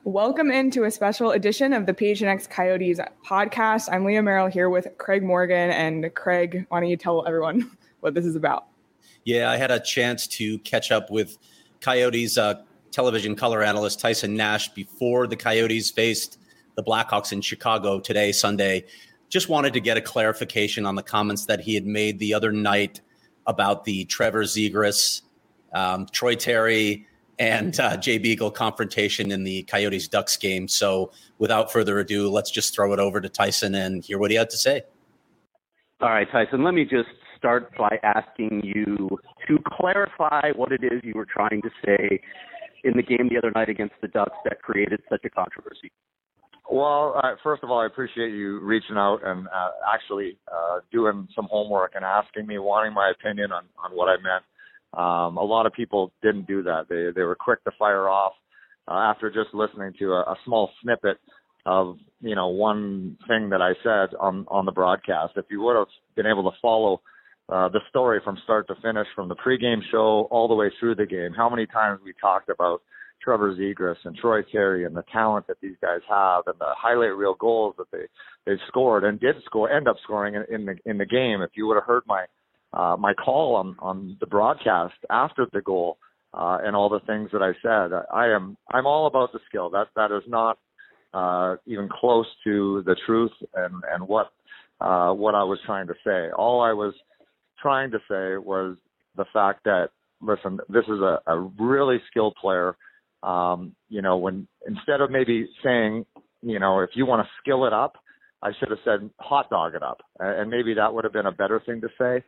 Welcome into a special edition of the PHNX Coyotes podcast. I'm Leah Merrill here with Craig Morgan. And Craig, why don't you tell everyone what this is about? Yeah, I had a chance to catch up with Coyotes television color analyst Tyson Nash before the Coyotes faced the Blackhawks in Chicago today, Sunday. Just wanted to get a clarification on the comments that he had made the other night about the Trevor Zegras, Troy Terry, and Jay Beagle confrontation in the Coyotes-Ducks game. So without further ado, let's just throw it over to Tyson and hear what he had to say. All right, Tyson, let me just start by asking you to clarify what it is you were trying to say in the game the other night against the Ducks that created such a controversy. Well, first of all, I appreciate you reaching out and actually doing some homework and asking me, wanting my opinion on what I meant. A lot of people didn't do that. They were quick to fire off after just listening to a small snippet of, one thing that I said on the broadcast. If you would have been able to follow the story from start to finish, from the pregame show all the way through the game, how many times we talked about Trevor Zegras and Troy Terry and the talent that these guys have and the highlight reel goals that they've scored and end up scoring in the game. If you would have heard my call on the broadcast after the goal and all the things that I said, I'm all about the skill. That is not even close to the truth and what I was trying to say. All I was trying to say was the fact that, listen, this is a really skilled player. When instead of maybe saying, if you want to skill it up, I should have said hot dog it up, and maybe that would have been a better thing to say.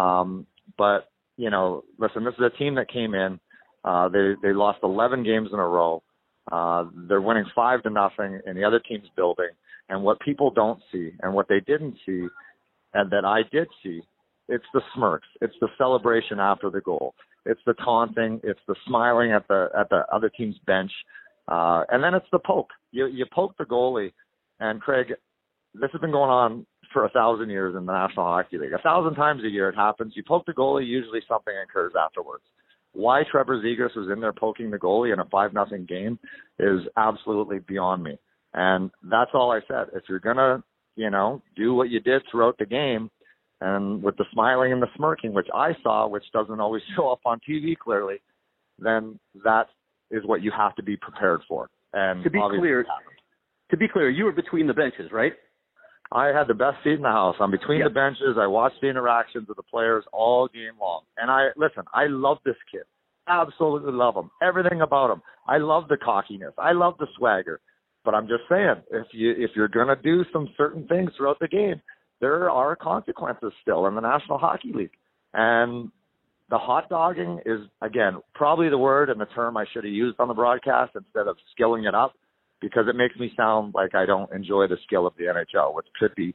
But listen, this is a team that came in. They lost 11 games in a row. They're winning 5-0 in the other team's building. And what people don't see, and what they didn't see, and that I did see, it's the smirks. It's the celebration after the goal. It's the taunting. It's the smiling at the other team's bench. And then it's the poke. You poke the goalie. And Craig, this has been going on for 1,000 years in the National Hockey League. 1,000 times a year it happens. You poke the goalie, usually something occurs afterwards. Why Trevor Zegras was in there poking the goalie in a 5-0 game is absolutely beyond me. And that's all I said. If you're going to, do what you did throughout the game, and with the smiling and the smirking, which I saw, which doesn't always show up on TV clearly, then that is what you have to be prepared for. And to be clear, you were between the benches, right? I had the best seat in the house. I'm between the benches. I watched the interactions with the players all game long. And I love this kid. Absolutely love him. Everything about him. I love the cockiness. I love the swagger. But I'm just saying, if you're going to do some certain things throughout the game, there are consequences still in the National Hockey League. And the hot dogging is, again, probably the word and the term I should have used on the broadcast instead of skilling it up, because it makes me sound like I don't enjoy the skill of the NHL, which could be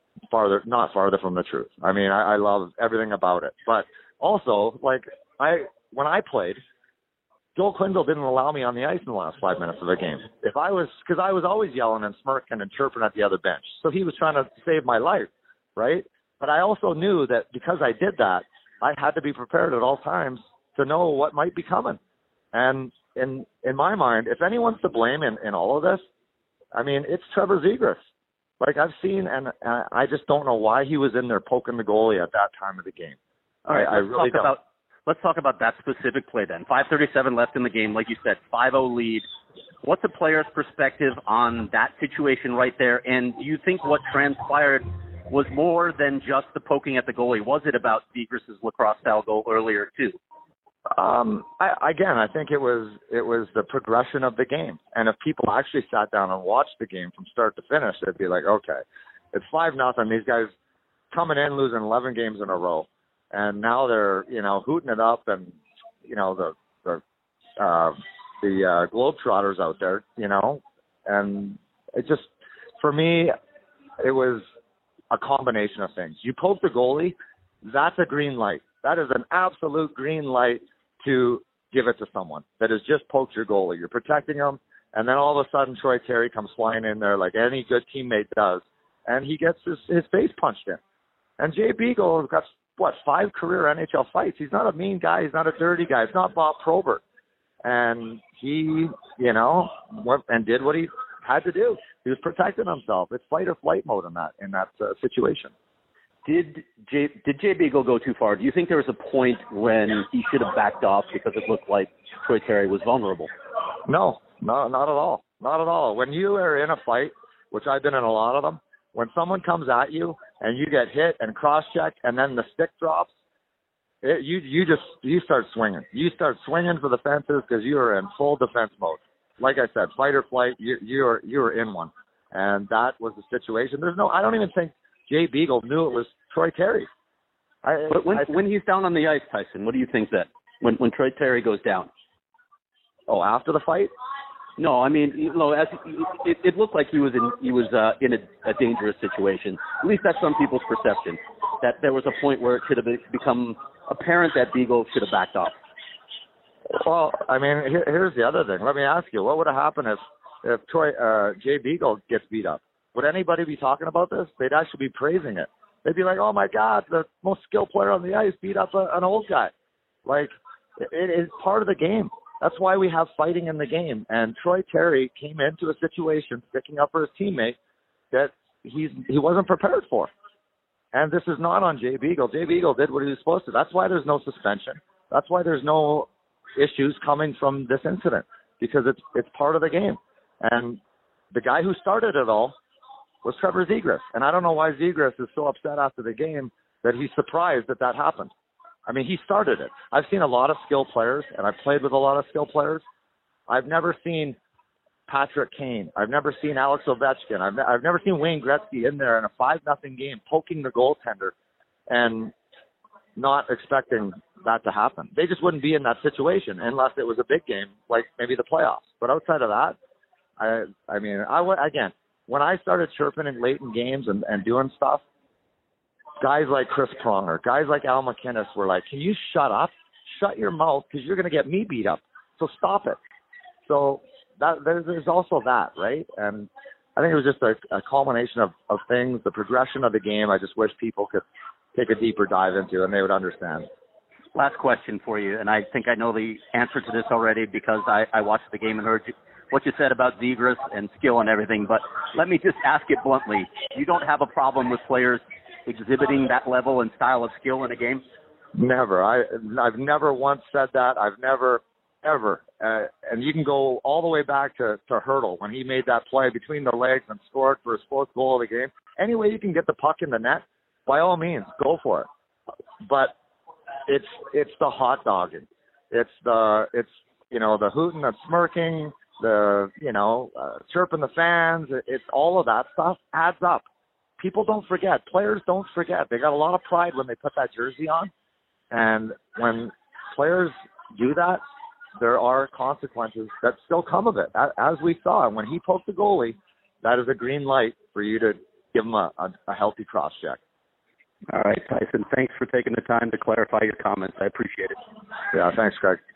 not farther from the truth. I mean, I love everything about it. But also, when I played, Joel Quenneville didn't allow me on the ice in the last 5 minutes of the game. Because I was always yelling and smirking and chirping at the other bench. So he was trying to save my life, right? But I also knew that because I did that, I had to be prepared at all times to know what might be coming. And in my mind, if anyone's to blame in all of this, I mean, it's Trevor Zegras. I've seen, and I just don't know why he was in there poking the goalie at that time of the game. All right, I really don't. Let's talk about that specific play then. 5:37 left in the game, like you said, 5-0 lead. What's a player's perspective on that situation right there? And do you think what transpired was more than just the poking at the goalie? Was it about Zegras' lacrosse-style goal earlier too? I think it was the progression of the game. And if people actually sat down and watched the game from start to finish, they'd be like, okay, it's 5-0. These guys coming in, losing 11 games in a row. And now they're, hooting it up, and, the Globetrotters out there, and it just, for me, it was a combination of things. You poke the goalie, that's a green light. That is an absolute green light to give it to someone that has just poked your goalie. You're protecting him, and then all of a sudden Troy Terry comes flying in there like any good teammate does, and he gets his face punched in. And Jay Beagle has got, 5 career NHL fights. He's not a mean guy. He's not a dirty guy. It's not Bob Probert. And he, went and did what he had to do. He was protecting himself. It's fight or flight mode in that situation. Did Jay Beagle go too far? Do you think there was a point when he should have backed off because it looked like Troy Terry was vulnerable? No, not at all. Not at all. When you are in a fight, which I've been in a lot of them, when someone comes at you and you get hit and cross-checked and then the stick drops, you start swinging. You start swinging for the fences because you are in full defense mode. Like I said, fight or flight, you're in one. And that was the situation. I don't even think Jay Beagle knew it was Troy Terry. But when he's down on the ice, Tyson, what do you think that when Troy Terry goes down? Oh, after the fight? No, I mean, it looked like he was in a dangerous situation. At least that's some people's perception. That there was a point where it should have become apparent that Beagle should have backed off. Well, I mean, here's the other thing. Let me ask you, what would have happened if Jay Beagle gets beat up? Would anybody be talking about this? They'd actually be praising it. They'd be like, oh, my God, the most skilled player on the ice beat up an old guy. Like, it is part of the game. That's why we have fighting in the game. And Troy Terry came into a situation sticking up for his teammate that he wasn't prepared for. And this is not on Jay Beagle. Jay Beagle did what he was supposed to. That's why there's no suspension. That's why there's no issues coming from this incident, because it's part of the game. And the guy who started it all was Trevor Zegras. And I don't know why Zegras is so upset after the game that he's surprised that happened. I mean, he started it. I've seen a lot of skilled players, and I've played with a lot of skilled players. I've never seen Patrick Kane. I've never seen Alex Ovechkin. I've never seen Wayne Gretzky in there in a 5-0 game poking the goaltender and not expecting that to happen. They just wouldn't be in that situation unless it was a big game, like maybe the playoffs. But outside of that, again, when I started chirping in late in games and doing stuff, guys like Chris Pronger, guys like Al McInnes were like, can you shut up? Shut your mouth, because you're going to get me beat up. So stop it. So there's also that, right? And I think it was just a culmination of things, the progression of the game. I just wish people could take a deeper dive into and they would understand. Last question for you, and I think I know the answer to this already because I watched the game and heard what you said about Zegras and skill and everything, but let me just ask it bluntly. You don't have a problem with players exhibiting that level and style of skill in a game? Never. I've never once said that. I've never, ever. And you can go all the way back to Hertl when he made that play between the legs and scored for his 4th goal of the game. Any way you can get the puck in the net, by all means, go for it. But it's the hot dogging. It's the hooting and smirking, chirping the fans. It's all of that stuff adds up. People don't forget. Players don't forget. They got a lot of pride when they put that jersey on. And when players do that, there are consequences that still come of it, as we saw. And when he poked the goalie, that is a green light for you to give him a healthy cross-check. All right, Tyson, thanks for taking the time to clarify your comments. I appreciate it. Yeah, thanks, Craig.